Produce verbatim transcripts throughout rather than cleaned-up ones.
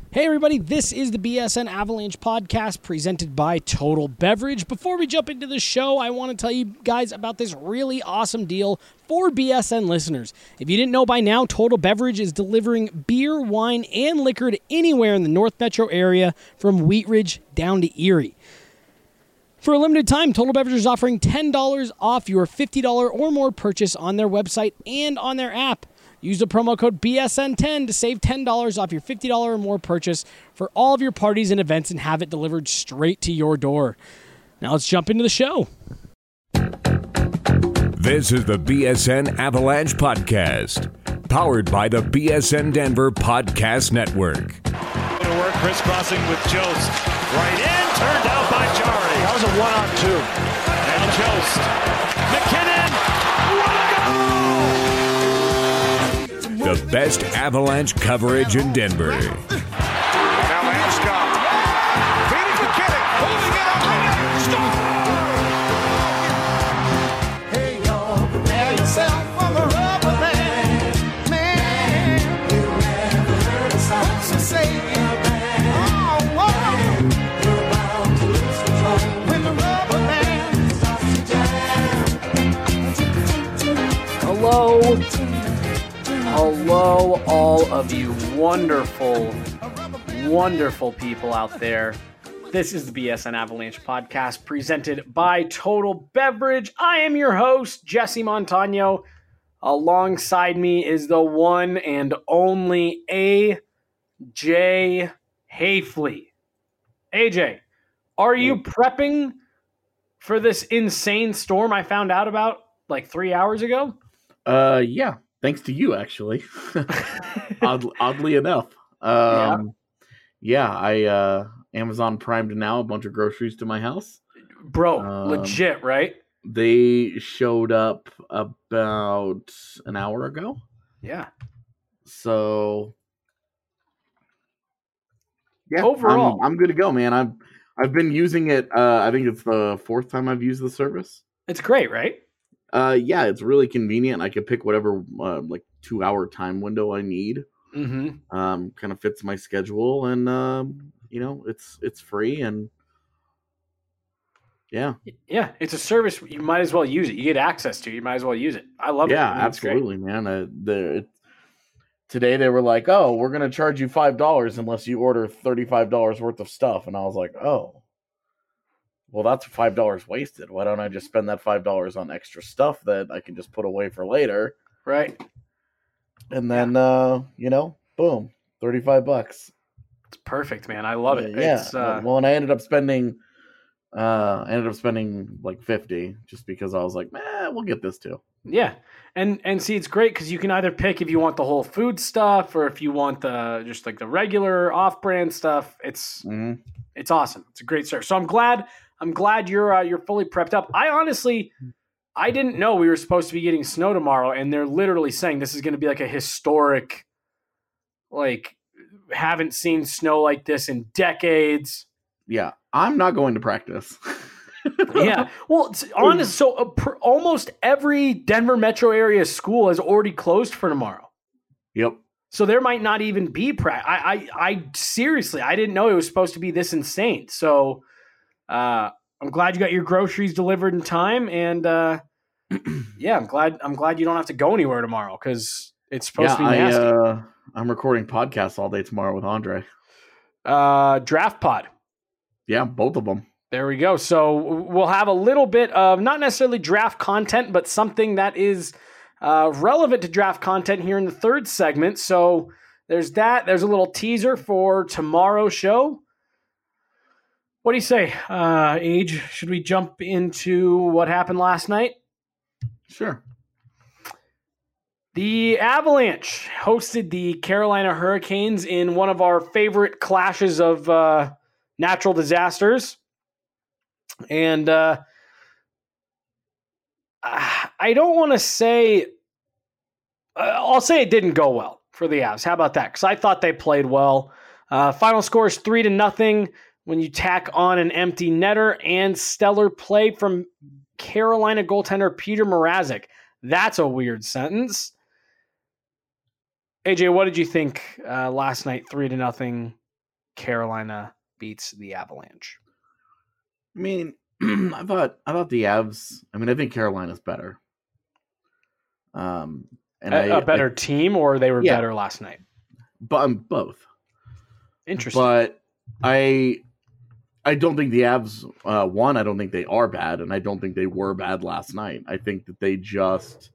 Hey everybody, this is the B S N Avalanche podcast presented by Total Beverage. Before we jump into the show, I want to tell you guys about this really awesome deal for B S N listeners. If you didn't know by now, Total Beverage is delivering beer, wine, and liquor to anywhere in the North Metro area from Wheat Ridge down to Erie. For a limited time, Total Beverage is offering ten dollars off your fifty dollars or more purchase on their website and on their app. Use the promo code B S N ten to save ten dollars off your fifty dollars or more purchase for all of your parties and events and have it delivered straight to your door. Now let's jump into the show. This is the B S N Avalanche Podcast, powered by the B S N Denver Podcast Network. To work, crisscrossing with Jost. Right in, turned out by Jari. That was a one-on-two. And Jost. McKinnon. What a goal! The best Avalanche coverage in Denver. Now Landeskog. Feeding McKinnon. Holding it up. Hey, y'all. Prepare yourself for the rubber band. Man, you never heard a sound so say it. Oh, whoa. You're bound to lose control when the rubber band starts to jam. Hello. Hello, all of you wonderful, wonderful people out there. This is the B S N Avalanche podcast presented by Total Beverage. I am your host, Jesse Montano. Alongside me is the one and only A J Hafley. A J, are you prepping for this insane storm I found out about like three hours ago? Uh, yeah. Thanks to you, actually. Odd, oddly enough. Um, yeah. yeah, I uh, Amazon Primed now a bunch of groceries to my house. Bro, um, legit, right? They showed up about an hour ago. Yeah. So, yeah, overall, I'm, I'm good to go, man. I've I've been using it. Uh, I think it's the fourth time I've used the service. It's great, right? Uh, yeah, it's really convenient. I can pick whatever uh, like two hour time window I need. Mm-hmm. Um, kind of fits my schedule, and um, you know, it's it's free, and yeah, yeah, it's a service. You might as well use it. You get access to. You might as well use it. I love yeah, it. Yeah, absolutely, man. Uh, the today they were like, "Oh, we're gonna charge you five dollars unless you order thirty five dollars worth of stuff," and I was like, "Oh. Well, that's five dollars wasted. Why don't I just spend that five dollars on extra stuff that I can just put away for later?" Right. And then, yeah. uh, you know, boom, thirty-five bucks. It's perfect, man. I love it. Yeah. It's, uh... Well, and I ended up spending, uh, I ended up spending like fifty just because I was like, man, we'll get this too. Yeah. And, and see, it's great because you can either pick if you want the whole food stuff or if you want the, just like the regular off-brand stuff. It's, mm-hmm. it's awesome. It's a great service. So I'm glad, I'm glad you're, uh, you're fully prepped up. I honestly, I didn't know we were supposed to be getting snow tomorrow, and they're literally saying this is going to be like a historic, like, haven't seen snow like this in decades. Yeah, I'm not going to practice. Yeah, well, it's honest. So uh, pr- almost every Denver metro area school has already closed for tomorrow. Yep. So there might not even be practice. I, I, I seriously, I didn't know it was supposed to be this insane. So, uh, I'm glad you got your groceries delivered in time, and uh, yeah, I'm glad. I'm glad you don't have to go anywhere tomorrow because it's supposed yeah, to be nasty. I, uh, I'm recording podcasts all day tomorrow with Andre. Uh, Draft Pod. Yeah, both of them. There we go. So we'll have a little bit of not necessarily draft content, but something that is uh, relevant to draft content here in the third segment. So there's that. There's a little teaser for tomorrow's show. What do you say, uh, Age? Should we jump into what happened last night? Sure. The Avalanche hosted the Carolina Hurricanes in one of our favorite clashes of uh, natural disasters. And uh, I don't want to say, uh, I'll say it didn't go well for the Avs. How about that? Because I thought they played well. Uh, final score is three to nothing. When you tack on an empty netter and stellar play from Carolina goaltender Peter Mrazek. That's a weird sentence. A J, what did you think uh, last night, three to nothing Carolina beats the Avalanche? I mean, I thought I thought the Avs. I mean, I think Carolina's better. Um, and a, I, a better I, team, or they were yeah. better last night? But um, both. Interesting. But I, I don't think the Avs. Uh, one, I don't think they are bad, and I don't think they were bad last night. I think that they just.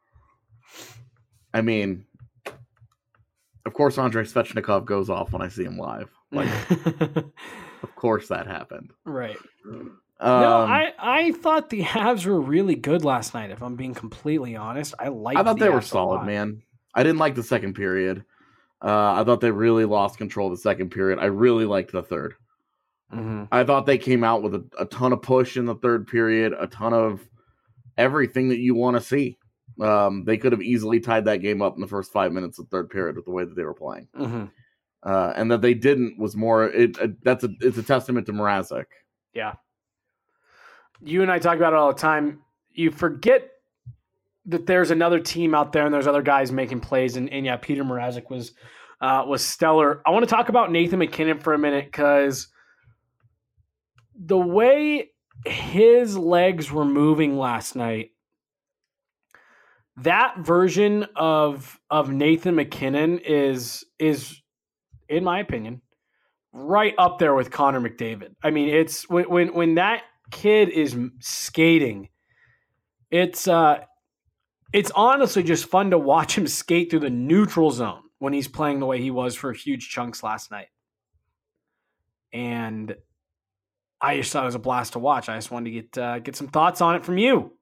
I mean, of course, Andrei Svechnikov goes off when I see him live. Like, of course that happened. Right. Um, no, I, I thought the Avs were really good last night, if I'm being completely honest. I liked I thought the they were Avs a solid, lot. man. I didn't like the second period. Uh, I thought they really lost control of the second period. I really liked the third. Mm-hmm. I thought they came out with a, a ton of push in the third period, a ton of everything that you want to see. Um, they could have easily tied that game up in the first five minutes of the third period with the way that they were playing. Mm-hmm. Uh, and that they didn't was more. It, it that's a it's a testament to Mrazek. Yeah. You and I talk about it all the time. You forget that there's another team out there and there's other guys making plays. And, and yeah, Peter Mrazek was uh, was stellar. I want to talk about Nathan MacKinnon for a minute because the way his legs were moving last night, that version of of Nathan MacKinnon is is, in my opinion, right up there with Connor McDavid. I mean, it's when when when that kid is skating, it's uh, it's honestly just fun to watch him skate through the neutral zone when he's playing the way he was for huge chunks last night. And I just thought it was a blast to watch. I just wanted to get uh, get some thoughts on it from you.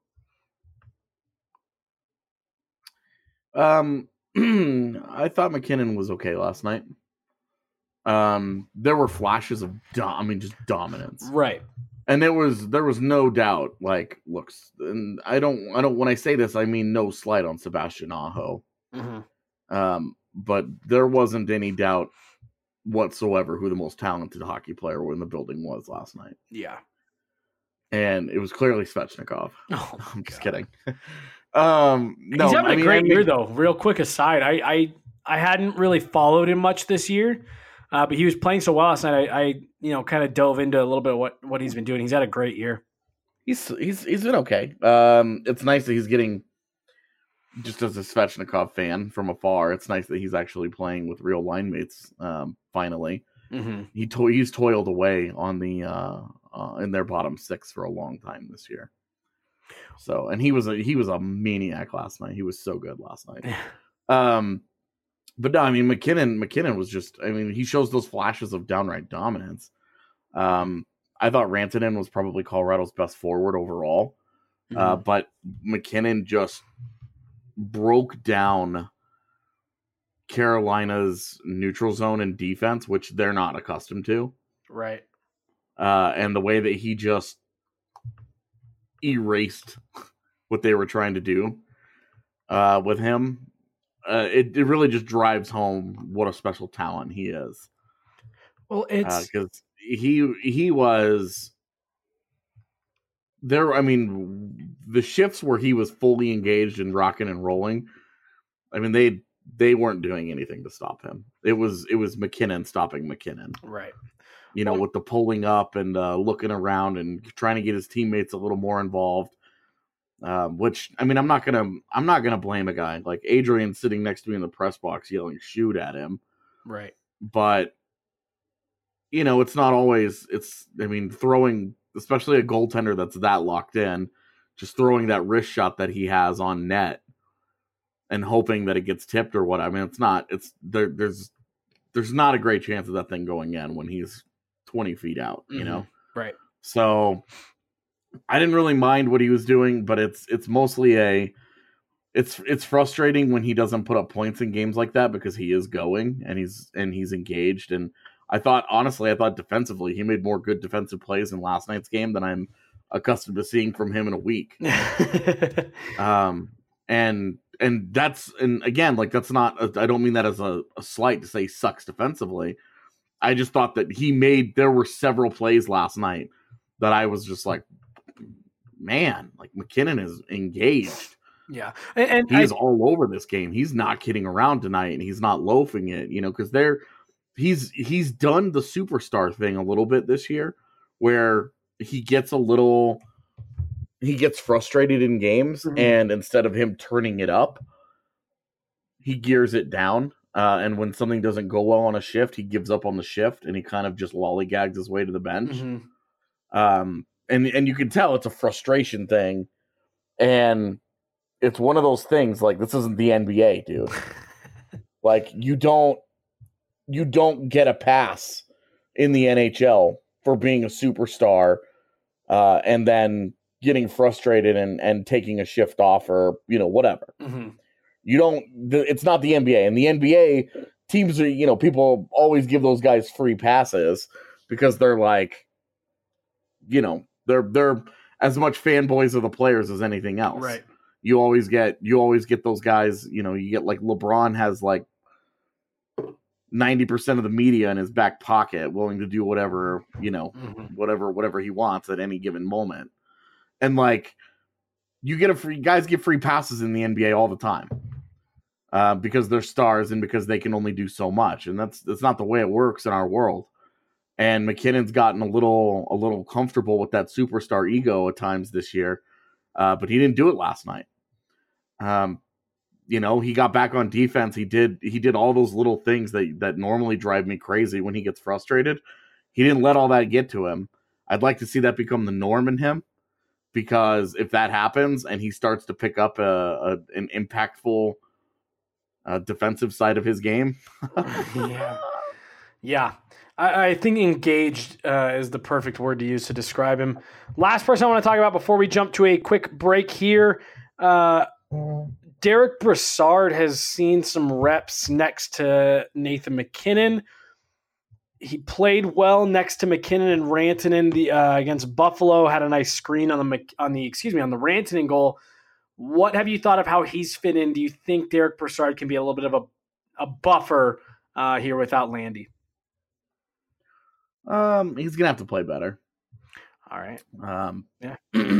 Um, I thought McKinnon was okay last night. Um, there were flashes of, do- I mean, just dominance, Right. and there was there was no doubt. Like, looks, and I don't, I don't. When I say this, I mean no slight on Sebastian Aho. Mm-hmm. Um, but there wasn't any doubt whatsoever who the most talented hockey player in the building was last night, Yeah. and it was clearly Svechnikov. Oh, I'm just God. kidding. Um, no, He's having I a mean, great I mean, year, though. Real quick aside, I I, I hadn't really followed him much this year, uh, but he was playing so well last night. I, I you know kind of dove into a little bit of what, what he's been doing. He's had a great year. He's he's he's been okay. Um, it's nice that he's getting, just as a Svechnikov fan from afar, it's nice that he's actually playing with real line mates. Um, finally, Mm-hmm. he to- he's toiled away on the uh, uh in their bottom six for a long time this year. So, and he was a he was a maniac last night. He was so good last night. Um, but no, I mean McKinnon McKinnon was just. I mean, he shows those flashes of downright dominance. Um, I thought Rantanen was probably Colorado's best forward overall, Mm-hmm. uh, but McKinnon just broke down Carolina's neutral zone and defense, which they're not accustomed to. Right. Uh, and the way that he just erased what they were trying to do uh, with him, uh, it, it really just drives home what a special talent he is. Well, it's Because uh, he he was there. I mean, the shifts where he was fully engaged and rocking and rolling. I mean, they they weren't doing anything to stop him. It was it was McKinnon stopping McKinnon. right. You know, Well, with the pulling up and uh, looking around and trying to get his teammates a little more involved. Um, which I mean, I'm not gonna I'm not gonna blame a guy like Adrian sitting next to me in the press box yelling "shoot" at him. Right. But you know, it's not always. It's I mean, throwing, especially a goaltender that's that locked in, just throwing that wrist shot that he has on net and hoping that it gets tipped or what. I mean, it's not. It's there. There's there's not a great chance of that thing going in when he's twenty feet out. You Mhm. know. Right. So I didn't really mind what he was doing, but it's it's mostly a it's it's frustrating when he doesn't put up points in games like that because he is going and he's and he's engaged. And I thought honestly, I thought defensively he made more good defensive plays in last night's game than I'm accustomed to seeing from him in a week. um and and that's and again, like that's not a, I don't mean that as a, a slight to say he sucks defensively. I just thought that he made there were several plays last night that I was just like, man, like McKinnon is engaged. Yeah, and, and He is I, all over this game. He's not kidding around tonight, and he's not loafing it, you know, because they're he's he's done the superstar thing a little bit this year, where he gets a little he gets frustrated in games, mm-hmm. and instead of him turning it up, he gears it down. Uh, and when something doesn't go well on a shift, he gives up on the shift and he kind of just lollygags his way to the bench. Mm-hmm. Um, and and you can tell it's a frustration thing, and it's one of those things like this isn't the N B A, dude. Like you don't you don't get a pass in the N H L for being a superstar, uh, and then getting frustrated and, and taking a shift off or you know whatever. Mm-hmm. You don't. It's not the N B A. In the N B A, teams are you know people always give those guys free passes because they're like, you know, they're they're as much fanboys of the players as anything else. Right. You always get you always get those guys. You know, you get like LeBron has like ninety percent of the media in his back pocket, willing to do whatever you know, mm-hmm. whatever whatever he wants at any given moment, and like. You get a free guys get free passes in the N B A all the time uh, because they're stars and because they can only do so much, and that's that's not the way it works in our world. And McKinnon's gotten a little a little comfortable with that superstar ego at times this year, uh, but he didn't do it last night. Um, you know, he got back on defense. He did he did all those little things that that normally drive me crazy when he gets frustrated. He didn't let all that get to him. I'd like to see that become the norm in him. Because if that happens and he starts to pick up a, a an impactful uh, defensive side of his game, yeah, yeah, I, I think engaged uh, is the perfect word to use to describe him. Last person I want to talk about before we jump to a quick break here, uh, Derek Brassard has seen some reps next to Nathan MacKinnon. He played well next to MacKinnon and Rantanen the uh, against Buffalo. Had a nice screen on the on the excuse me on the Rantanen goal. What have you thought of how he's fit in? Do you think Derek Brassard can be a little bit of a a buffer uh, here without Landy? Um, he's gonna have to play better. All right. Um, yeah.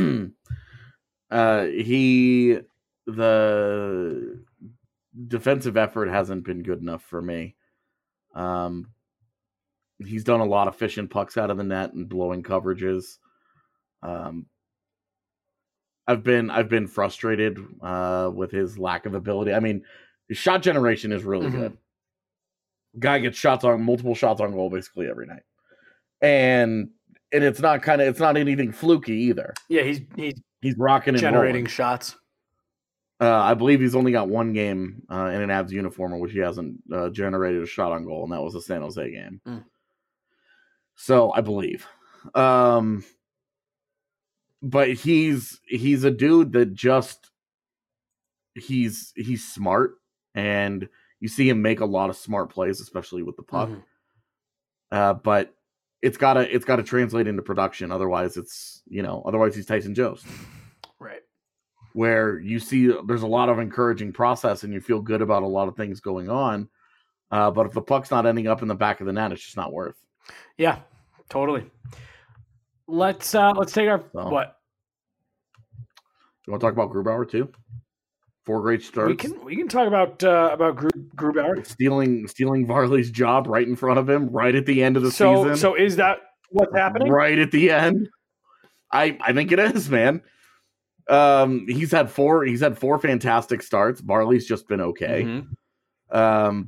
uh, he the defensive effort hasn't been good enough for me. Um. He's done a lot of fishing pucks out of the net and blowing coverages. Um, I've been I've been frustrated uh, with his lack of ability. I mean, his shot generation is really mm-hmm. good. Guy gets shots on multiple shots on goal basically every night, and and it's not kind of it's not anything fluky either. Yeah, he's he's he's rocking and generating rolling. shots. Uh, I believe he's only got one game uh, in an Avs uniform in which he hasn't uh, generated a shot on goal, and that was the San Jose game. Mm. So I believe, um, but he's he's a dude that just he's he's smart, and you see him make a lot of smart plays, especially with the puck. Mm-hmm. Uh, but it's gotta it's gotta translate into production. Otherwise, it's you know otherwise he's Tyson Jost, right? Where you see there's a lot of encouraging process, and you feel good about a lot of things going on. Uh, but if the puck's not ending up in the back of the net, it's just not worth. Yeah, totally. Let's uh, let's take our so, what? You want to talk about Grubauer too? Four great starts. We can we can talk about uh, about Gru- Grubauer stealing stealing Varley's job right in front of him, right at the end of the so, season. So is that what's happening? Right at the end. I I think it is, man. Um, he's had four. He's had four fantastic starts. Varley's just been okay. Mm-hmm. Um.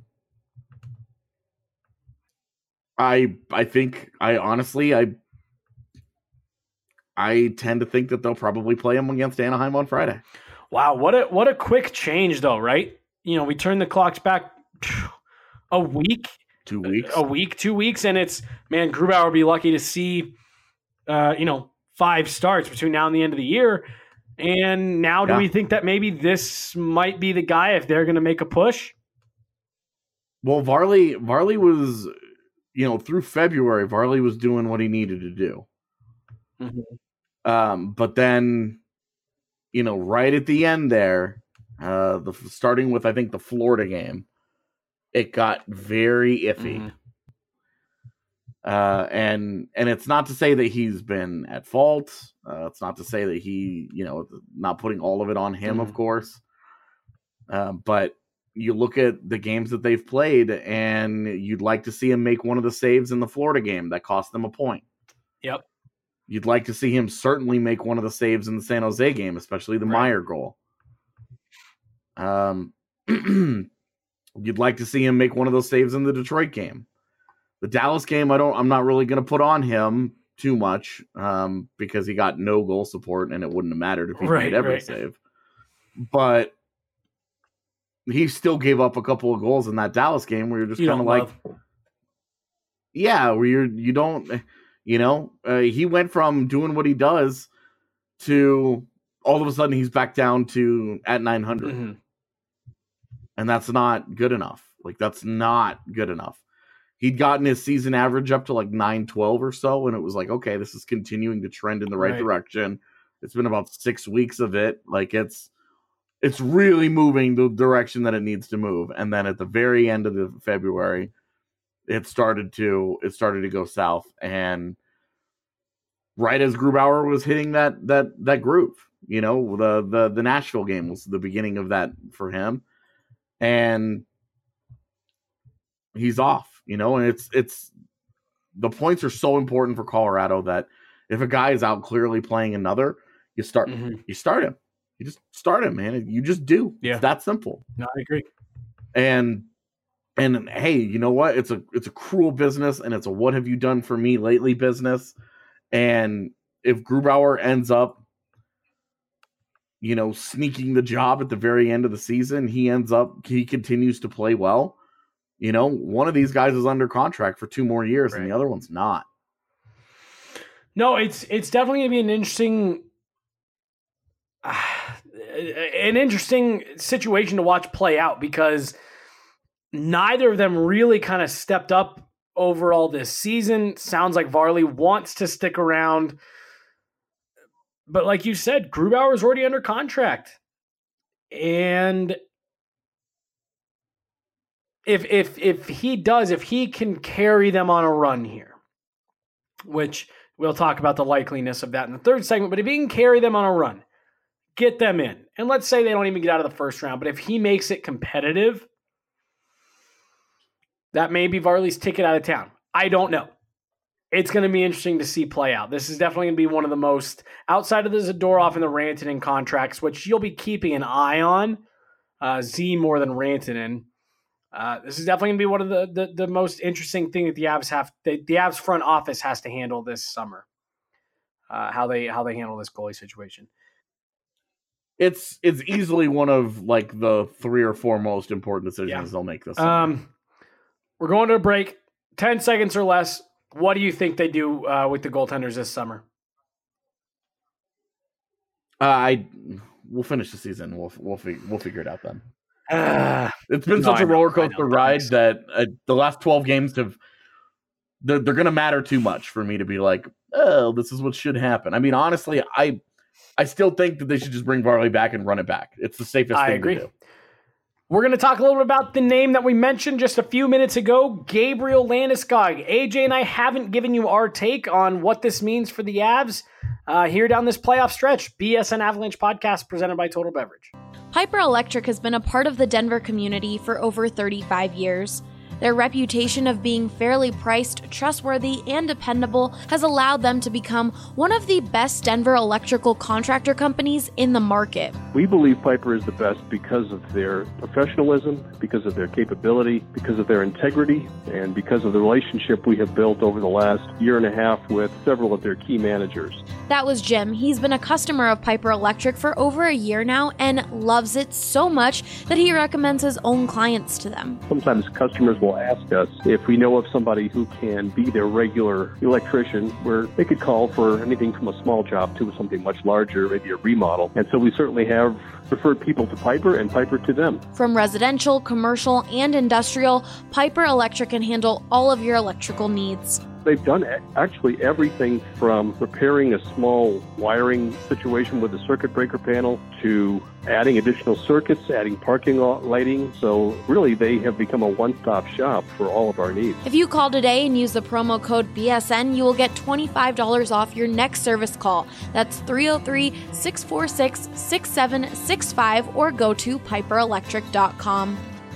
I I think I honestly I I tend to think that they'll probably play him against Anaheim on Friday. Wow, what a what a quick change though, right? You know, we turn the clocks back a week, two weeks, a week, two weeks, and it's man, Grubauer would be lucky to see, uh, you know, five starts between now and the end of the year. And now, do yeah. we think that maybe this might be the guy if they're going to make a push? Well, Varley Varley was. You know, through February, Varley was doing what he needed to do. Mm-hmm. Um, but then, you know, right at the end there, uh, the starting with, I think, the Florida game, it got very iffy. Mm-hmm. Uh, and and it's not to say that he's been at fault. Uh, it's not to say that he, you know, not putting all of it on him, mm-hmm. of course. Uh, but you look at the games that they've played, and you'd like to see him make one of the saves in the Florida game that cost them a point. Yep. You'd like to see him certainly make one of the saves in the San Jose game, especially the right. Meyer goal. Um, you'd like to see him make one of those saves in the Detroit game. The Dallas game, I don't. I'm not really going to put on him too much um, because he got no goal support, and it wouldn't have mattered if he right, made every right. save. But he still gave up a couple of goals in that Dallas game where you're just kind of like, love. yeah, where you're you don't, you know, uh, he went from doing what he does to all of a sudden he's back down to at nine hundred, mm-hmm. and that's not good enough. Like that's not good enough. He'd gotten his season average up to like nine twelve or so, and it was like, okay, this is continuing to trend in the right, right direction. It's been about six weeks of it. Like it's it's really moving the direction that it needs to move. And then at the very end of the February, it started to it started to go south. And right as Grubauer was hitting that that that groove, you know, the the the Nashville game was the beginning of that for him, and he's off. You know, and it's it's the points are so important for Colorado that if a guy is out clearly playing another, you start mm-hmm. you start him. You just start him, man. You just do. Yeah, it's that simple. No, I agree. And and hey, you know what? It's a it's a cruel business, and it's a what have you done for me lately business. And if Grubauer ends up, you know, sneaking the job at the very end of the season, he ends up he continues to play well. You know, one of these guys is under contract for two more years, right. and the other one's not. No, it's it's definitely going to be an interesting, uh, an interesting situation to watch play out because neither of them really kind of stepped up overall this season. Sounds like Varley wants to stick around, but like you said, Grubauer is already under contract, and If if if he does, if he can carry them on a run here, which we'll talk about the likeliness of that in the third segment, but if he can carry them on a run, get them in, and let's say they don't even get out of the first round, but if he makes it competitive, that may be Varley's ticket out of town. I don't know. It's going to be interesting to see play out. This is definitely going to be one of the most, outside of the Zadorov and the Rantanen contracts, which you'll be keeping an eye on, uh, Z more than Rantanen. Uh, this is definitely going to be one of the, the, the most interesting thing that the Avs have. The, the Avs front office has to handle this summer. Uh, how they how they handle this goalie situation. It's it's easily one of like the three or four most important decisions yeah. they'll make this summer. Um, we're going to a break. Ten seconds or less. What do you think they do uh, with the goaltenders this summer? Uh, I we'll finish the season. We'll we'll fig- we'll figure it out then. Uh, it's been no, such a roller coaster ride that uh, the last twelve games have they're, they're going to matter too much for me to be like, oh, this is what should happen. I mean, honestly, I I still think that they should just bring Varley back and run it back. It's the safest I thing agree. to do. We're going to talk a little bit about the name that we mentioned just a few minutes ago, Gabriel Landeskog. A J and I haven't given you our take on what this means for the Avs uh, here down this playoff stretch. B S N Avalanche podcast presented by Total Beverage. Piper Electric has been a part of the Denver community for over thirty-five years. Their reputation of being fairly priced, trustworthy, and dependable has allowed them to become one of the best Denver electrical contractor companies in the market. We believe Piper is the best because of their professionalism, because of their capability, because of their integrity, and because of the relationship we have built over the last year and a half with several of their key managers. That was Jim. He's been a customer of Piper Electric for over a year now and loves it so much that he recommends his own clients to them. Sometimes customers will ask us if we know of somebody who can be their regular electrician, where they could call for anything from a small job to something much larger, maybe a remodel. And so we certainly have referred people to Piper and Piper to them. From residential, commercial, and industrial, Piper Electric can handle all of your electrical needs. They've done actually everything from repairing a small wiring situation with a circuit breaker panel to adding additional circuits, adding parking lot lighting. So really, they have become a one-stop shop for all of our needs. If you call today and use the promo code B S N, you will get twenty-five dollars off your next service call. That's three oh three, six four six, six seven six five or go to piper electric dot com.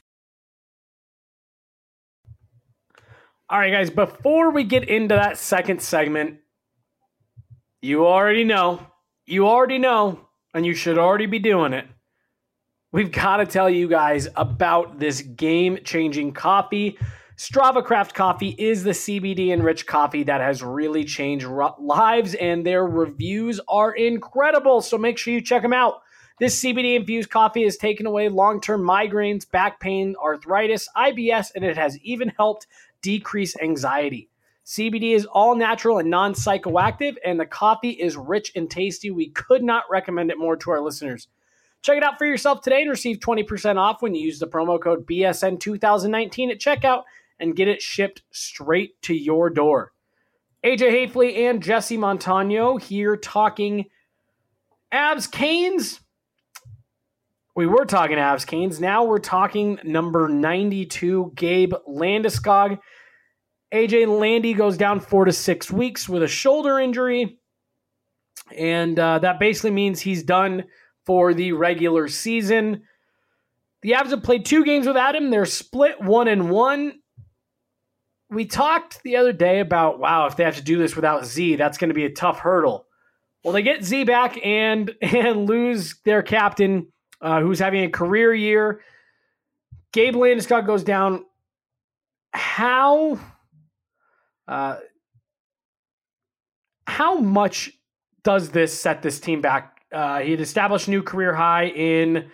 All right, guys, before we get into that second segment, you already know, you already know, and you should already be doing it. We've got to tell you guys about this game-changing coffee. Strava Craft Coffee is the C B D-enriched coffee that has really changed lives, and their reviews are incredible, so make sure you check them out. This C B D-infused coffee has taken away long-term migraines, back pain, arthritis, I B S, and it has even helped decrease anxiety. C B D is all natural and non-psychoactive, and the coffee is rich and tasty. We could not recommend it more to our listeners. Check it out for yourself today and receive twenty percent off when you use the promo code B S N twenty nineteen at checkout and get it shipped straight to your door. A J Hafley and Jesse Montano here talking Avs Canes. We were talking Avs Canes. Now we're talking number ninety-two, Gabe Landeskog. A J Landy goes down four to six weeks with a shoulder injury. And uh, that basically means he's done for the regular season. The Avs have played two games without him. They're split one and one. We talked the other day about, wow, if they have to do this without Z, that's going to be a tough hurdle. Well, they get Z back and, and lose their captain, uh, who's having a career year. Gabe Landeskog goes down. How... Uh, how much does this set this team back? Uh, he had established a new career high in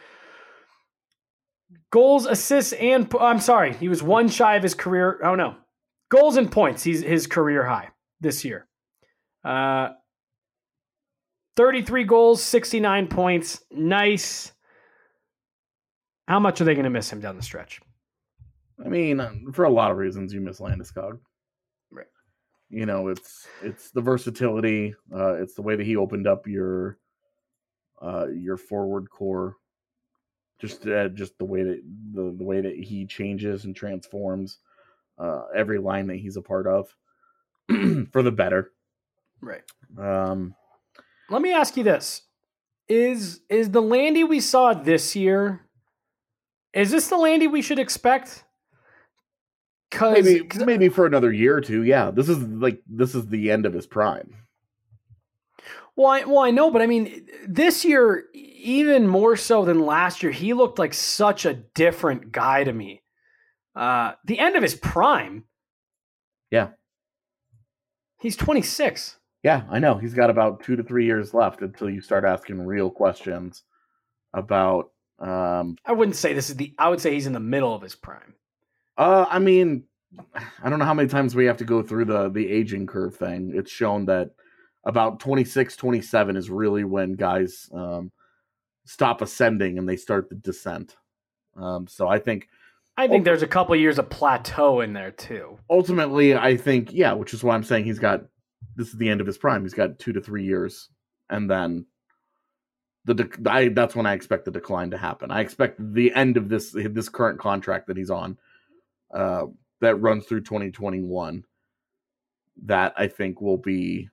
goals, assists, and I'm sorry, he was one shy of his career. Oh no, goals and points. He's his career high this year. Uh, thirty-three goals, sixty-nine points. Nice. How much are they going to miss him down the stretch? I mean, for a lot of reasons, you miss Landeskog. Right. You know, it's it's the versatility. Uh, it's the way that he opened up your uh, your forward core. Just uh, just the way that the, the way that he changes and transforms uh, every line that he's a part of for the better. Right. Um, Let me ask you this: Is is the Landy we saw this year? Is this the Landy we should expect? Maybe maybe for another year or two, yeah. This is like this is the end of his prime. Well, I, well, I know, but I mean, this year, even more so than last year, he looked like such a different guy to me. Uh, the end of his prime. Yeah. He's twenty-six. Yeah, I know. He's got about two to three years left until you start asking real questions about. Um, I wouldn't say this is the. I would say he's in the middle of his prime. Uh, I mean, I don't know how many times we have to go through the, the aging curve thing. It's shown that about twenty-six, twenty-seven is really when guys um, stop ascending and they start the descent. Um, so I think... I think there's a couple years of plateau in there, too. Ultimately, I think, yeah, which is why I'm saying he's got... This is the end of his prime. He's got two to three years. And then the de- I, that's when I expect the decline to happen. I expect the end of this this current contract that he's on, Uh, that runs through twenty twenty-one, that I think will be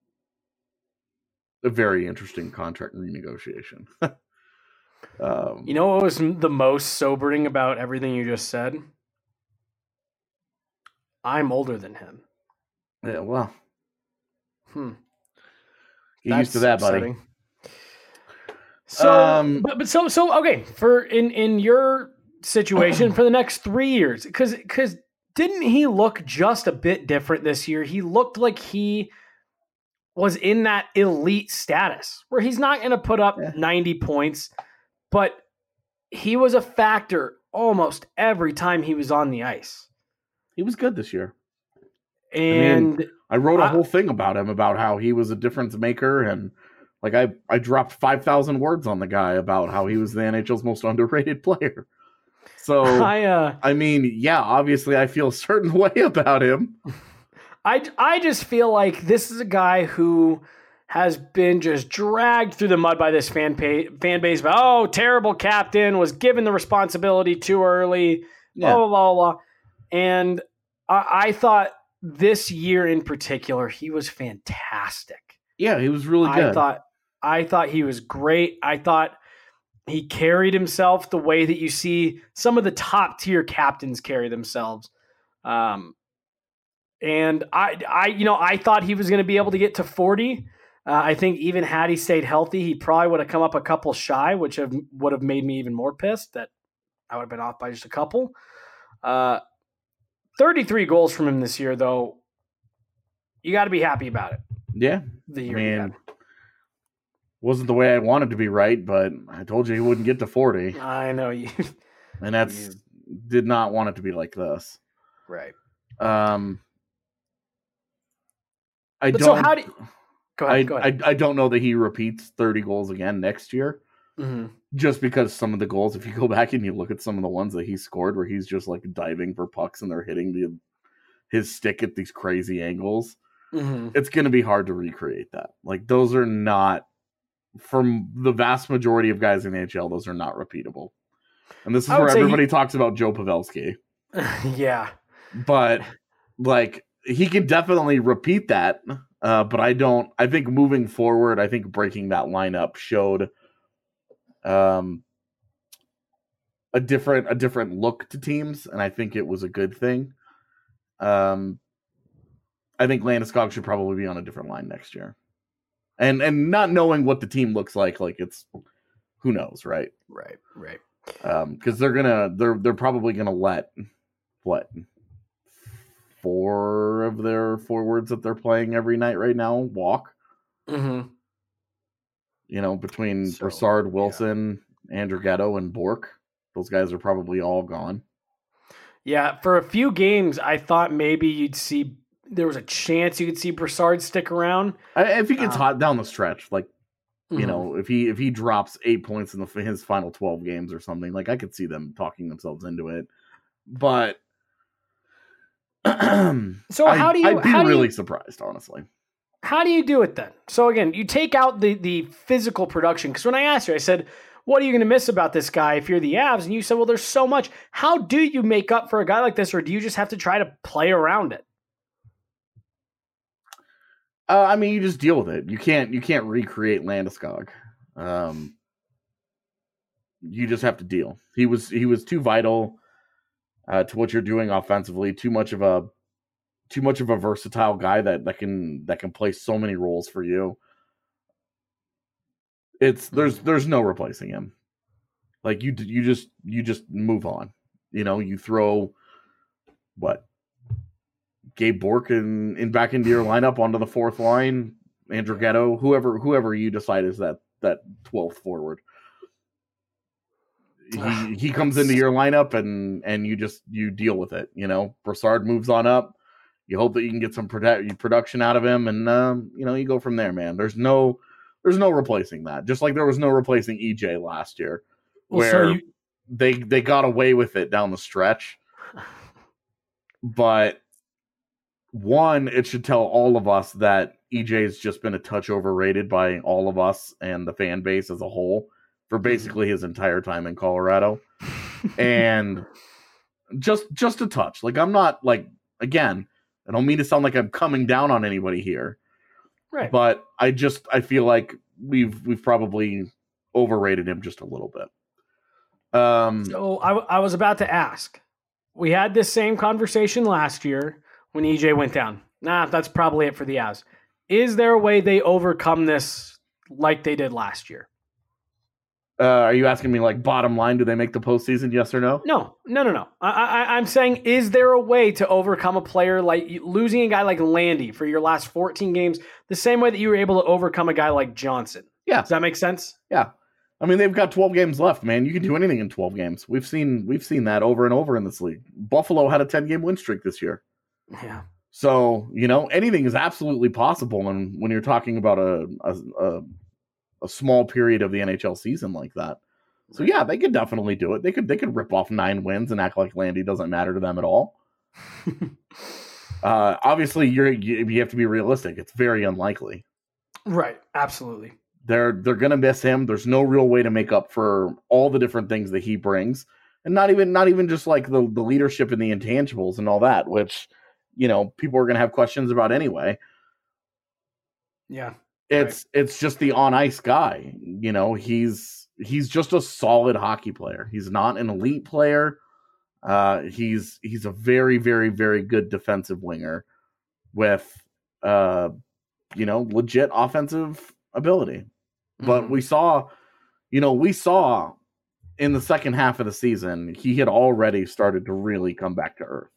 a very interesting contract renegotiation. um, you know what was the most sobering about everything you just said? I'm older than him. Yeah, well, hmm. get That's used to that, buddy. upsetting. So, um, but, but so so okay for in in your situation for the next three years, because because didn't he look just a bit different this year? He looked like he was in that elite status where he's not going to put up yeah. ninety points, but he was a factor almost every time he was on the ice. He was good this year. And I, mean, I wrote a I, whole thing about him, about how he was a difference maker. And like I, I dropped five thousand words on the guy about how he was the N H L's most underrated player. So, I, uh, I mean, yeah, obviously I feel a certain way about him. I, I just feel like this is a guy who has been just dragged through the mud by this fan, pay, fan base. About, oh, terrible captain, was given the responsibility too early, yeah. blah, blah, blah, blah. And I, I thought this year in particular, he was fantastic. Yeah, he was really good. I thought, I thought he was great. I thought he carried himself the way that you see some of the top tier captains carry themselves. Um, And I, I, you know, I thought he was going to be able to get to forty. Uh, I think even had he stayed healthy, he probably would have come up a couple shy, which have, would have made me even more pissed that I would have been off by just a couple. Uh, thirty-three goals from him this year, though. You got to be happy about it. Yeah. The year I he mean, had. wasn't the way I wanted to be right, but I told you he wouldn't get to forty. I know you. And that's you- did not want it to be like this. Right. Um, I But don't. so how do you, go ahead, I, go ahead. I I don't know that he repeats thirty goals again next year. Mm-hmm. Just because some of the goals, if you go back and you look at some of the ones that he scored, where he's just like diving for pucks and they're hitting the his stick at these crazy angles, Mm-hmm. it's going to be hard to recreate that. Like those are not, from the vast majority of guys in the N H L, those are not repeatable. And this is I would where say everybody he- talks about Joe Pavelski. Yeah. But like he can definitely repeat that. Uh, but I don't. I think moving forward, I think breaking that lineup showed um, a different a different look to teams, and I think it was a good thing. Um, I think Landeskog should probably be on a different line next year, and and not knowing what the team looks like, like it's who knows, right? Right. Right. Um, because they're gonna they're they're probably gonna let what four of their forwards that they're playing every night right now walk. Mm-hmm. You know, between So, Brassard, Wilson, Andrew Gatto, and Bork, those guys are probably all gone. Yeah, for a few games, I thought maybe you'd see there was a chance you could see Brassard stick around. I, if he gets Um, hot down the stretch, like you Mhm. know, if he if he drops eight points in the his final twelve games or something, like I could see them talking themselves into it. But So I, how do you- I'd be how do you- really surprised, honestly. How do you do it then? So again, you take out the the physical production, because when I asked you, I said, "What are you going to miss about this guy if you're the Avs?" And you said, "Well, there's so much." How do you make up for a guy like this, or do you just have to try to play around it? Uh, I mean, you just deal with it. You can't you can't recreate Landeskog. Um, you just have to deal. He was he was too vital uh, to what you're doing offensively. Too much of a too much of a versatile guy that, that can that can play so many roles for you. It's there's there's no replacing him. Like you you just you just move on. You know, you throw what Gabe Bork in, in back into your lineup onto the fourth line, Andrew Gatto, whoever whoever you decide is that that twelfth forward. He he comes into your lineup and and you just you deal with it. You know, Brassard moves on up. You hope that you can get some produ- production out of him, and um, you know you go from there, man. There's no there's no replacing that. Just like there was no replacing E J last year, Well, where so you, they they got away with it down the stretch. But one, it should tell all of us that E J's just been a touch overrated by all of us and the fan base as a whole for basically his entire time in Colorado. And just just a touch. Like I'm not like again, I don't mean to sound like I'm coming down on anybody here. right? But I just I feel like we've we've probably overrated him just a little bit. Um So I, w- I was about to ask. We had this same conversation last year when E J went down. Nah, that's probably it for the Avs. Is there a way they overcome this like they did last year? uh, are you asking me like bottom line, do they make the postseason? Yes or no? No, no, no, no. I, I, I'm saying, is there a way to overcome a player like losing a guy like Landy for your last fourteen games the same way that you were able to overcome a guy like Johnson? Yeah. Does that make sense? Yeah. I mean, they've got twelve games left, man. You can do anything in twelve games. We've seen we've seen that over and over in this league. Buffalo had a ten-game win streak this year. Yeah. So, you know, anything is absolutely possible. And when you're talking about a, a, a, a small period of the N H L season like that. So, yeah, they could definitely do it. They could they could rip off nine wins and act like Landy doesn't matter to them at all. uh, obviously, you're you, you have to be realistic. It's very unlikely. Right. Absolutely. They're they're gonna miss him. There's no real way to make up for all the different things that he brings, and not even not even just like the the leadership and the intangibles and all that, which you know people are gonna have questions about anyway. Yeah. It's it's just the on ice guy. You know, he's he's just a solid hockey player. He's not an elite player. Uh, he's he's a very very very good defensive winger. with, uh, you know, legit offensive ability. But Mm-hmm. we saw, you know, we saw in the second half of the season, he had already started to really come back to earth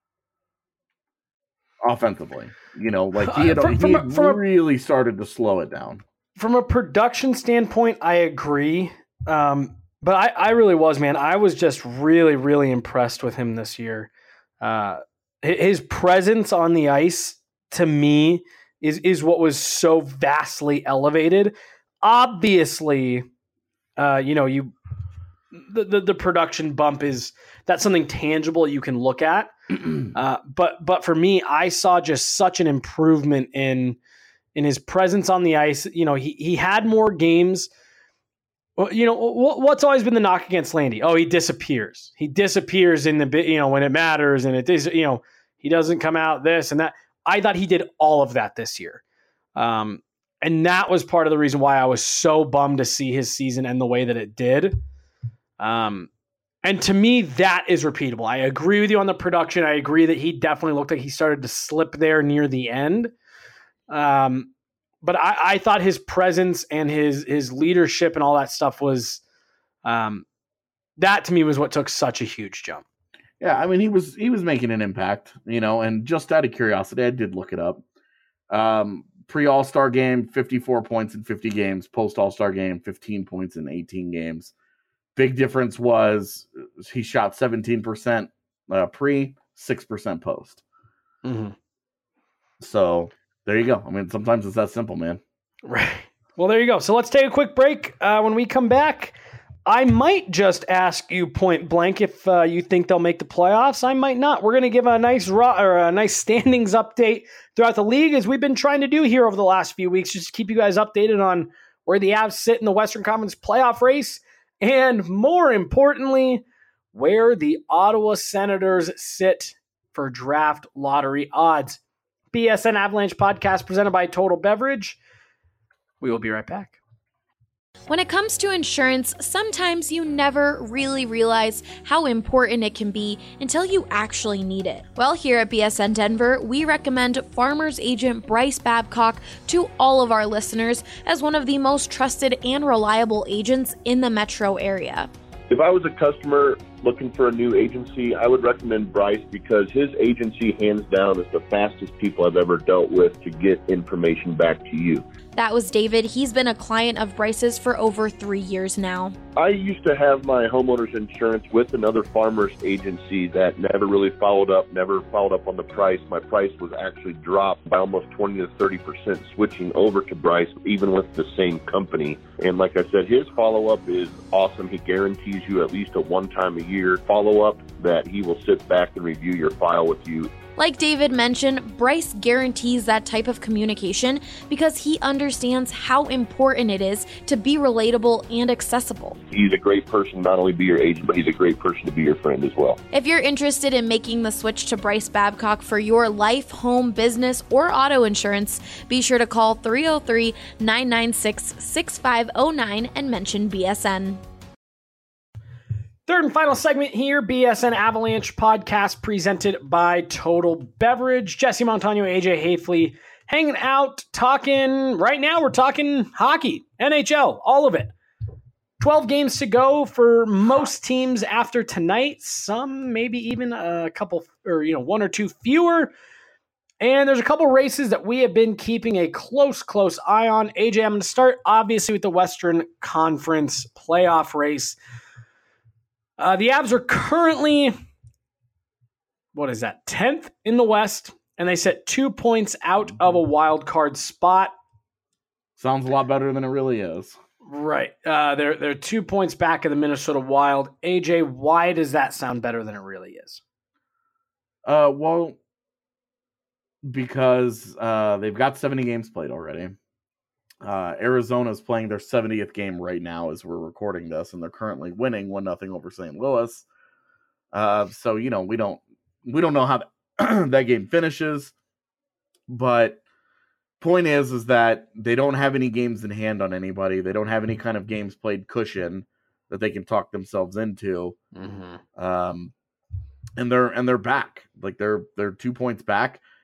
offensively. You know, like he had, Uh, from- he from a- had from a- really started to slow it down. From a production standpoint, I agree. Um, but I, I really was, man. I was just really, really impressed with him this year. Uh, hi- his presence on the ice, to me, is is what was so vastly elevated. Obviously, uh, you know, you the, the the production bump is that's something tangible you can look at. Uh, but but for me, I saw just such an improvement in in his presence on the ice. You know, he he had more games. Well, you know, what, what's always been the knock against Landy? Oh, he disappears. He disappears in the bit, you know, when it matters, and it is, you know, he doesn't come out this and that. I thought he did all of that this year. Um, and that was part of the reason why I was so bummed to see his season end the way that it did. Um, and to me, that is repeatable. I agree with you on the production. I agree that he definitely looked like he started to slip there near the end. Um, but I, I thought his presence and his his leadership and all that stuff was, um, that to me was what took such a huge jump. Yeah, I mean, he was he was making an impact, you know, and just out of curiosity, I did look it up. Um, pre All-Star game, fifty-four points in fifty games. Post All-Star game, fifteen points in eighteen games. Big difference was he shot seventeen percent uh, pre, six percent post. Mm-hmm. So there you go. I mean, sometimes it's that simple, man. Right. Well, there you go. So let's take a quick break. Uh, when we come back, I might just ask you point blank if uh, you think they'll make the playoffs. I might not. We're going to give a nice raw or a nice standings update throughout the league, as we've been trying to do here over the last few weeks, just to keep you guys updated on where the Avs sit in the Western Conference playoff race, and more importantly, where the Ottawa Senators sit for draft lottery odds. B S N Avalanche podcast presented by Total Beverage. We will be right back. When it comes to insurance, sometimes you never really realize how important it can be until you actually need it. Well, here at B S N Denver, we recommend Farmers Agent Bryce Babcock to all of our listeners as one of the most trusted and reliable agents in the metro area. If I was a customer looking for a new agency, I would recommend Bryce because his agency, hands down, is the fastest people I've ever dealt with to get information back to you. That was David. He's been a client of Bryce's for over three years now. I used to have my homeowner's insurance with another farmer's agency that never really followed up, never followed up on the price. My price was actually dropped by almost twenty to thirty percent switching over to Bryce, even with the same company. And like I said, his follow-up is awesome. He guarantees you at least a one-time a year follow-up that he will sit back and review your file with you. Like David mentioned, Bryce guarantees that type of communication because he understands how important it is to be relatable and accessible. He's a great person, not only be your agent, but he's a great person to be your friend as well. If you're interested in making the switch to Bryce Babcock for your life, home, business, or auto insurance, be sure to call three oh three, nine nine six, six five oh nine and mention B S N. Third and final segment here, B S N Avalanche podcast presented by Total Beverage. Jesse Montano, A J Hafley hanging out, talking. Right now we're talking hockey, N H L, all of it. twelve games to go for most teams after tonight. Some maybe even a couple, or you know, one or two fewer. And there's a couple races that we have been keeping a close, close eye on. A J, I'm going to start obviously with the Western Conference playoff race. Uh, the Avs are currently, what is that, tenth in the West, and they sit two points out of a wild card spot. Sounds a lot better than it really is. Right. Uh, they're, they're two points back of the Minnesota Wild. A J, why does that sound better than it really is? Uh, well, because uh, they've got seventy games played already. Uh, Arizona is playing their seventieth game right now as we're recording this, and they're currently winning one nothing over Saint Louis. Uh, so you know we don't we don't know how that, that game finishes, but point is is that they don't have any games in hand on anybody. They don't have any kind of games played cushion that they can talk themselves into. Mm-hmm. Um, and they're and they're back, like they're they're two points back.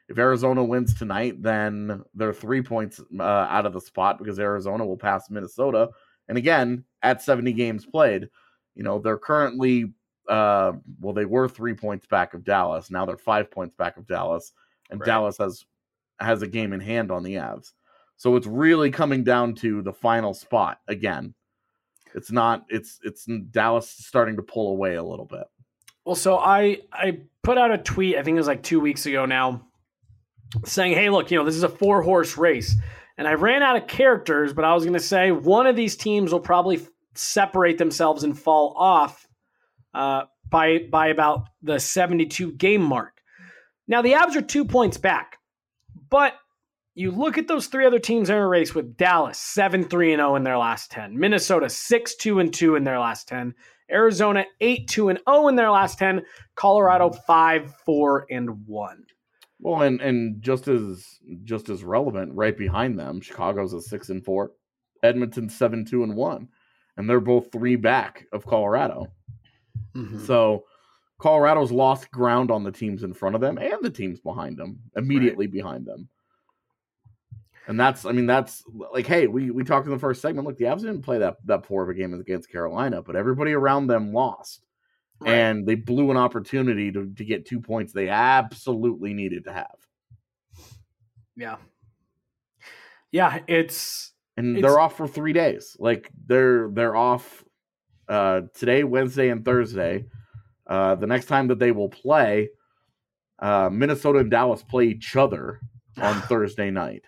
If Arizona wins tonight, then they're three points uh, out of the spot because Arizona will pass Minnesota. And again, at seventy games played, you know, they're currently, uh, well, they were three points back of Dallas. Now they're five points back of Dallas. And Right. Dallas has has a game in hand on the Avs. So it's really coming down to the final spot again. It's not, it's, it's Dallas starting to pull away a little bit. Well, so I, I put out a tweet, I think it was like two weeks ago now, saying, hey, look, you know, this is a four horse race. And I ran out of characters, but I was going to say one of these teams will probably f- separate themselves and fall off uh, by, by about the seventy-two game mark. Now, the Avs are two points back, but you look at those three other teams in a race with Dallas, seven three and oh in their last ten, Minnesota, six two and two in their last ten, Arizona, eight two and oh in their last ten, Colorado, five four and one. Well, and, and just as just as relevant, right behind them, Chicago's a six and four, Edmonton's seven two and one, and they're both three back of Colorado. Mm-hmm. So Colorado's lost ground on the teams in front of them and the teams behind them, immediately right. behind them. And that's, I mean, that's like, hey, we, we talked in the first segment. Look, the Avs didn't play that, that poor of a game against Carolina, but everybody around them lost. Right. And they blew an opportunity to, to get two points they absolutely needed to have. Yeah. Yeah, it's... And it's, they're off for three days. Like, they're they're off uh, today, Wednesday, and Thursday. Uh, the next time that they will play, uh, Minnesota and Dallas play each other on Thursday night.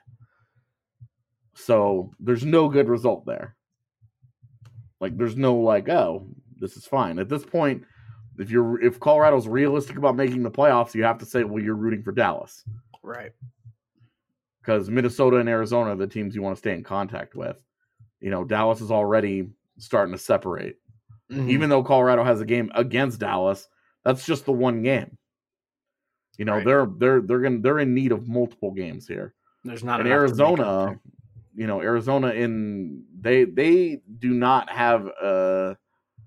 So there's no good result there. Like, there's no like, oh, this is fine. At this point, if you're if Colorado's realistic about making the playoffs, you have to say, well, you're rooting for Dallas. Right. Because Minnesota and Arizona are the teams you want to stay in contact with. You know, Dallas is already starting to separate. Mm-hmm. Even though Colorado has a game against Dallas, that's just the one game. You know, right. they're they're they're gonna they're in need of multiple games here. There's not and enough Arizona, you know, Arizona in they they do not have a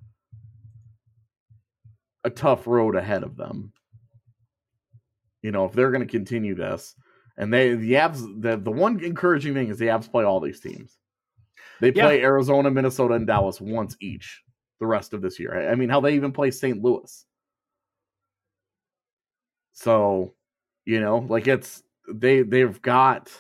a tough road ahead of them. You know, if they're going to continue this, and they the Avs the the one encouraging thing is the Avs play all these teams. They play yeah. Arizona, Minnesota, and Dallas once each the rest of this year. I mean, how they even play Saint Louis. So, you know, like it's they they've got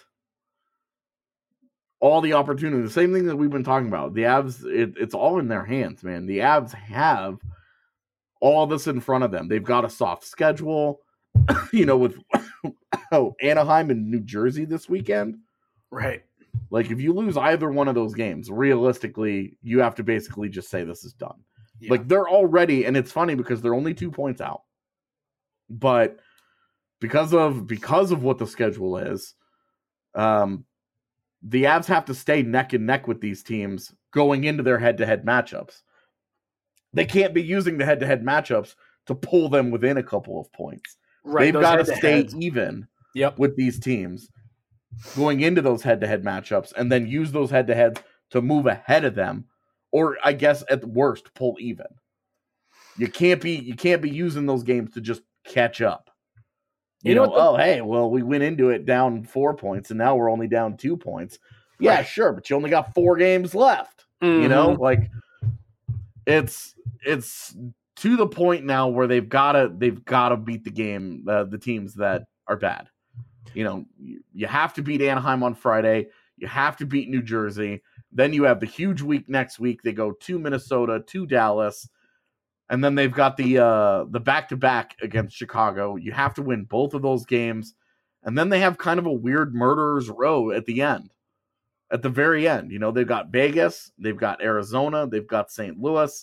all the opportunity. The same thing that we've been talking about. The Avs, it, it's all in their hands, man. The Avs have all this in front of them. They've got a soft schedule, you know, with oh, Anaheim and New Jersey this weekend. Right. Like, if you lose either one of those games, realistically, you have to basically just say this is done. Yeah. Like, they're already, and it's funny because they're only two points out. But because of because of what the schedule is, um, the Avs have to stay neck and neck with these teams going into their head-to-head matchups. They can't be using the head-to-head matchups to pull them within a couple of points. Right, they've got to stay even yep. with these teams going into those head-to-head matchups and then use those head-to-heads to move ahead of them, or I guess at the worst, pull even. You can't be you can't be using those games to just catch up. You, you know, know the- oh, hey, well, we went into it down four points, and now we're only down two points. Yeah, right. Sure, but you only got four games left. Mm-hmm. You know, like it's it's to the point now where they've gotta they've gotta beat the game, uh, the teams that are bad. You know, you, you have to beat Anaheim on Friday. You have to beat New Jersey. Then you have the huge week next week. They go to Minnesota, to Dallas. And then they've got the uh, the back-to-back against Chicago. You have to win both of those games. And then they have kind of a weird murderer's row at the end. At the very end. You know, they've got Vegas. They've got Arizona. They've got Saint Louis.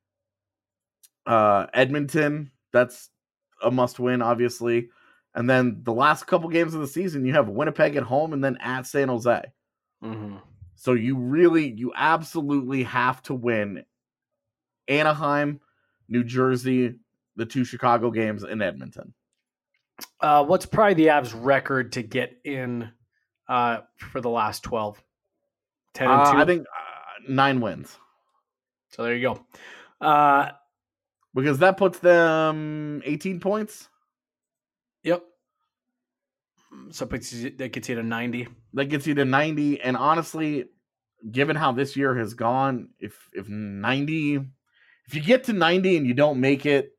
Uh, Edmonton. That's a must-win, obviously. And then the last couple games of the season, you have Winnipeg at home and then at San Jose. Mm-hmm. So you really, you absolutely have to win Anaheim, New Jersey, the two Chicago games, in Edmonton. Uh, what's probably the Avs record to get in uh, for the last twelve? ten and two? Uh, I think uh, nine wins. So there you go. Uh, because that puts them eighteen points. Yep. So it puts you, that gets you to ninety. That gets you to ninety. And honestly, given how this year has gone, if if ninety, if you get to ninety and you don't make it,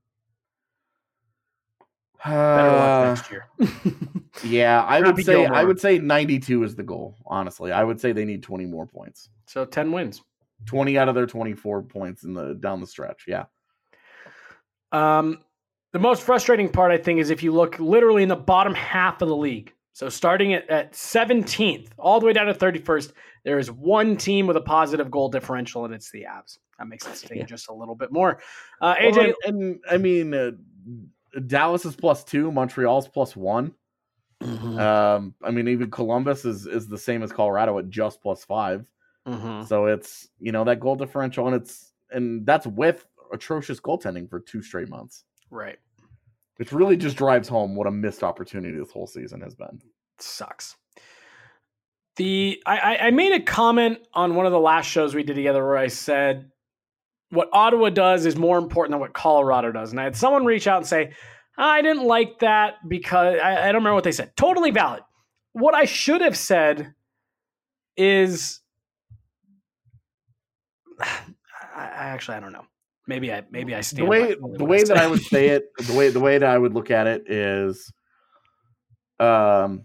Better luck uh, next year. yeah, I would Happy say Gilmore. I would say ninety-two is the goal. Honestly, I would say they need twenty more points. So ten wins. twenty out of their twenty-four points in the down the stretch. Yeah. Um, the most frustrating part, I think, is if you look literally in the bottom half of the league. So starting at, at seventeenth, all the way down to thirty-first, there is one team with a positive goal differential, and it's the Avs. That makes it sting Yeah. just a little bit more. Uh, A J, Well, and, and I mean, uh, Dallas is plus two, Montreal's plus one. Mhm. Um, I mean, even Columbus is is the same as Colorado at just plus five. Mhm. So it's, you know, that goal differential, and it's and that's with atrocious goaltending for two straight months. Right. It really just drives home what a missed opportunity this whole season has been. Sucks. The I, I I made a comment on one of the last shows we did together where I said what Ottawa does is more important than what Colorado does. And I had someone reach out and say, I didn't like that because I, I don't remember what they said. Totally valid. What I should have said is I, I actually I don't know. Maybe I maybe I stand The way by what the way that I said. would say it, the way the way that I would look at it is um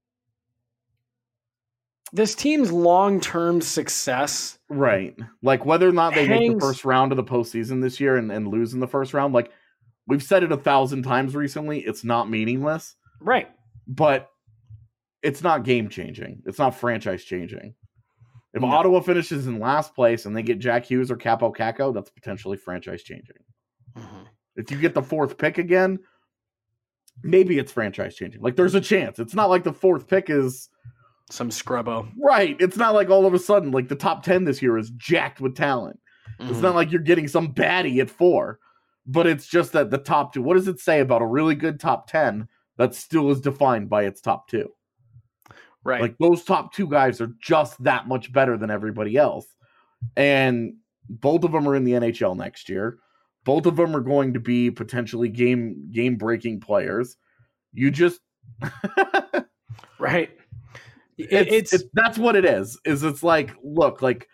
This team's long-term success. right. Like whether or not they make Hangs- the first round of the postseason this year and, and lose in the first round, like we've said it a thousand times recently, it's not meaningless, Right. but it's not game changing. It's not franchise changing. If No. Ottawa finishes in last place and they get Jack Hughes or Capo Caco, that's potentially franchise changing. Mhm. If you get the fourth pick again, maybe it's franchise changing. Like there's a chance. It's not like the fourth pick is Some scrubbo. right. It's not like all of a sudden like the top ten this year is jacked with talent. It's Mhm. not like you're getting some baddie at four, but it's just that the top two. What does it say about a really good top ten that still is defined by its top two? Right. Like those top two guys are just that much better than everybody else. And both of them are in the N H L next year. Both of them are going to be potentially game game breaking players. You just right. It- it's, it's it's that's what it is. Is it's like look like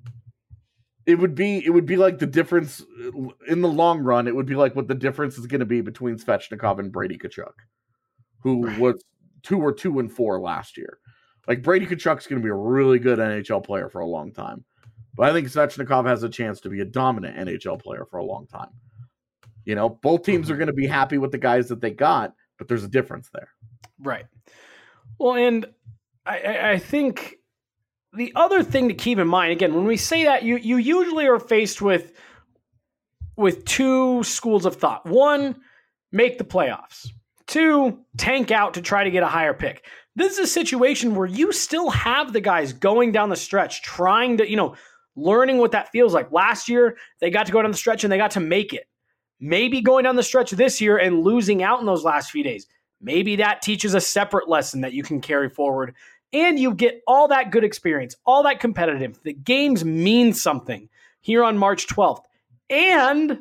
it would be it would be like the difference in the long run. It would be like what the difference is going to be between Svechnikov and Brady Tkachuk, who Right. was two or two and four last year. Like Brady Tkachuk's going to be a really good N H L player for a long time, but I think Svechnikov has a chance to be a dominant N H L player for a long time. You know, both teams are going to be happy with the guys that they got, but there's a difference there. right. Well, and I, I, I think the other thing to keep in mind, again, when we say that, you you usually are faced with with two schools of thought. One, make the playoffs. Two, tank out to try to get a higher pick. This is a situation where you still have the guys going down the stretch, trying to, you know, learning what that feels like. Last year, they got to go down the stretch and they got to make it. Maybe going down the stretch this year and losing out in those last few days. Maybe that teaches a separate lesson that you can carry forward. And you get all that good experience, all that competitive. The games mean something here on March twelfth. And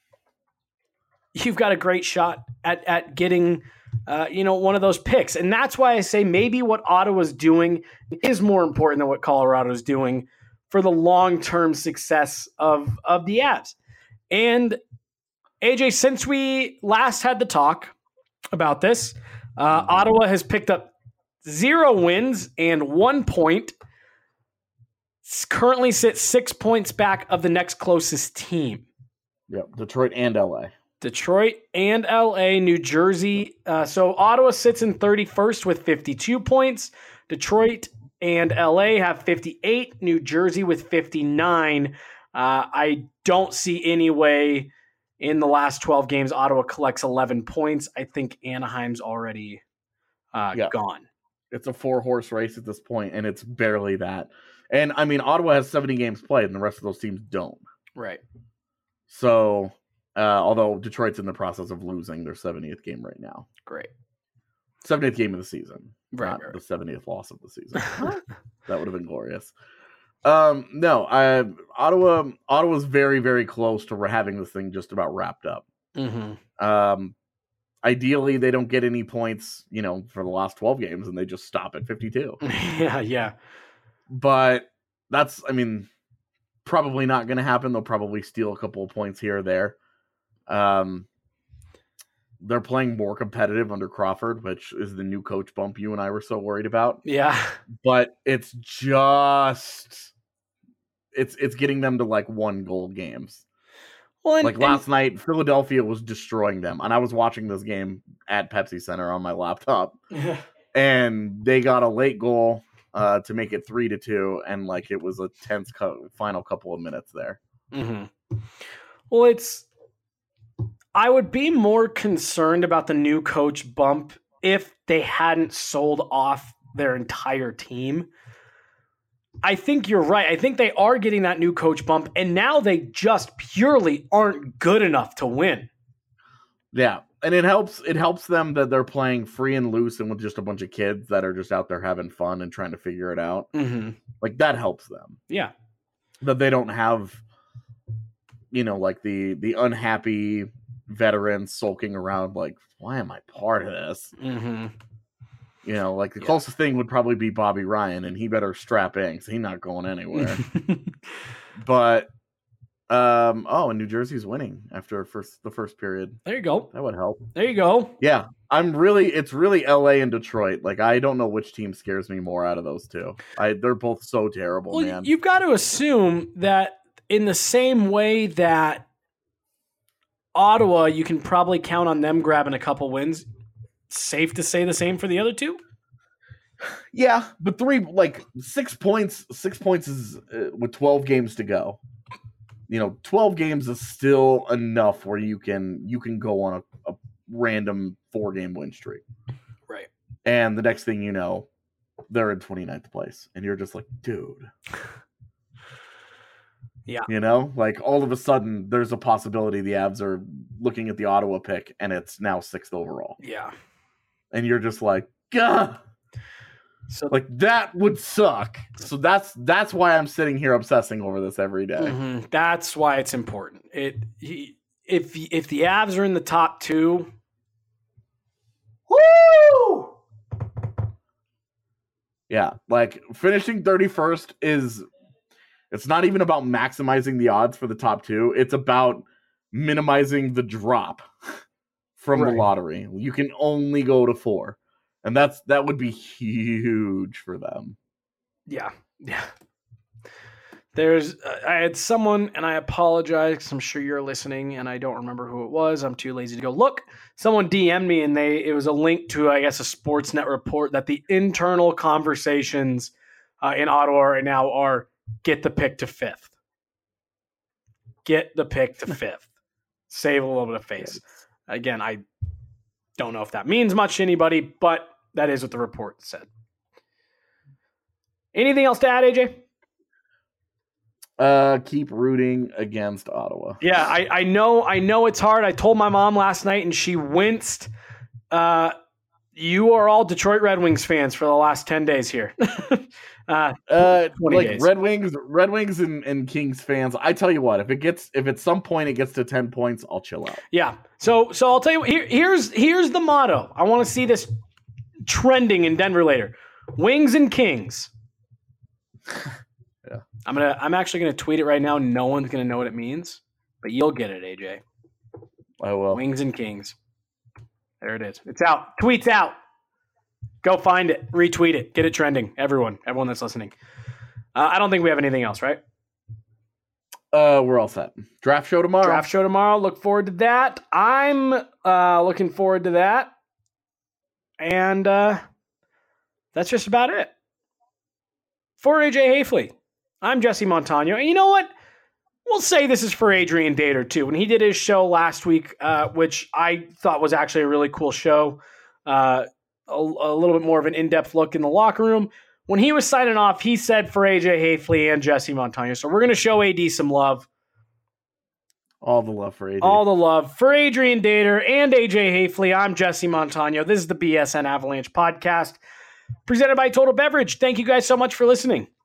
you've got a great shot at, at getting, uh, you know, one of those picks. And that's why I say maybe what Ottawa's doing is more important than what Colorado's doing for the long-term success of, of the Avs. And A J, since we last had the talk about this, uh, Ottawa has picked up zero wins and one point. S- Currently sits six points back of the next closest team. Yep, Detroit and L A. Detroit and L A, New Jersey. Uh, so Ottawa sits in thirty-first with fifty-two points. Detroit and L A have fifty-eight. New Jersey with fifty-nine. Uh, I don't see any way in the last twelve games Ottawa collects eleven points. I think Anaheim's already uh, Yeah. gone. It's a four horse race at this point, and it's barely that. And I mean, Ottawa has seventy games played, and the rest of those teams don't. Right. So, uh, although Detroit's in the process of losing their seventieth game right now, Great. seventieth game of the season, Right, not right, the seventieth loss of the season. That would have been glorious. Um, no, I Ottawa. Ottawa's very, very close to having this thing just about wrapped up. Mm-hmm. Um, ideally they don't get any points, you know, for the last twelve games and they just stop at fifty-two. yeah, yeah. But that's, I mean, probably not going to happen. They'll probably steal a couple of points here or there. Um, they're playing more competitive under Crawford, which is the new coach bump you and I were so worried about. Yeah. But it's just, it's it's getting them to like one goal games. Well, and, like last and, night, Philadelphia was destroying them. And I was watching this game at Pepsi Center on my laptop. And they got a late goal uh, to make it three to two. And like it was a tense co- final couple of minutes there. Mm-hmm. Well, it's, I would be more concerned about the new coach bump if they hadn't sold off their entire team. I think you're right. I think they are getting that new coach bump, and now they just purely aren't good enough to win. Yeah, and it helps it helps them that they're playing free and loose and with just a bunch of kids that are just out there having fun and trying to figure it out. Mm-hmm. Like, that helps them. Yeah. That they don't have, you know, like the the unhappy veterans sulking around like, why am I part of this? Mm-hmm. You know, like the yeah. closest thing would probably be Bobby Ryan, and he better strap in because he's not going anywhere. But, um, oh, and New Jersey's winning after first the first period. There you go. That would help. There you go. Yeah, I'm really, it's really L A and Detroit. Like, I don't know which team scares me more out of those two. I They're both so terrible, well, man. You've got to assume that in the same way that Ottawa, you can probably count on them grabbing a couple wins. Safe to say the same for the other two? Yeah, but three, like six points, six points is uh, with twelve games to go. You know, twelve games is still enough where you can you can go on a, a random four game win streak. Right. And the next thing you know, they're in twenty-ninth place. And you're just like, dude. Yeah. You know, like all of a sudden there's a possibility the Avs are looking at the Ottawa pick and it's now sixth overall. Yeah. And you're just like, gah. So like that would suck. So that's that's why I'm sitting here obsessing over this every day. Mm-hmm. That's why it's important. It he, if if the Avs are in the top two, woo! Yeah, like finishing thirty-first is it's not even about maximizing the odds for the top two. It's about minimizing the drop from right. the lottery. You can only go to four. And that's that would be huge for them. Yeah. Yeah. There's uh, I had someone, and I apologize because I'm sure you're listening and I don't remember who it was. I'm too lazy to go look. Someone D M'd me and they it was a link to, I guess, a Sportsnet report that the internal conversations uh, in Ottawa right now are get the pick to fifth. Get the pick to fifth. Save a little bit of face. Again, I don't know if that means much to anybody, but that is what the report said. Anything else to add, A J? Uh, keep rooting against Ottawa. Yeah, I, I know I know it's hard. I told my mom last night and she winced. Uh, you are all Detroit Red Wings fans for the last ten days here. uh, uh like days. Red Wings, Red Wings and, and Kings fans. I tell you what, if it gets if at some point it gets to ten points, I'll chill out. Yeah. So so I'll tell you here, here's here's the motto. I want to see this trending in Denver later. Wings and Kings. Yeah. I'm gonna I'm actually gonna tweet it right now. No one's gonna know what it means, but you'll get it, A J. I will. Wings and Kings. There it is. It's out. Tweet's out. Go find it. Retweet it. Get it trending. Everyone. Everyone that's listening. Uh, I don't think we have anything else, right? Uh, we're all set. Draft show tomorrow. Draft show tomorrow. Look forward to that. I'm uh, looking forward to that. And uh, that's just about it. For A J Hafley, I'm Jesse Montano. And you know what? We'll say this is for Adrian Dater, too. When he did his show last week, uh, which I thought was actually a really cool show, uh, a, a little bit more of an in-depth look in the locker room. When he was signing off, he said for A J Hafley and Jesse Montano. So we're going to show A D some love. All the love for A D. All the love for Adrian Dater and A J Hafley. I'm Jesse Montano. This is the B S N Avalanche podcast presented by Total Beverage. Thank you guys so much for listening.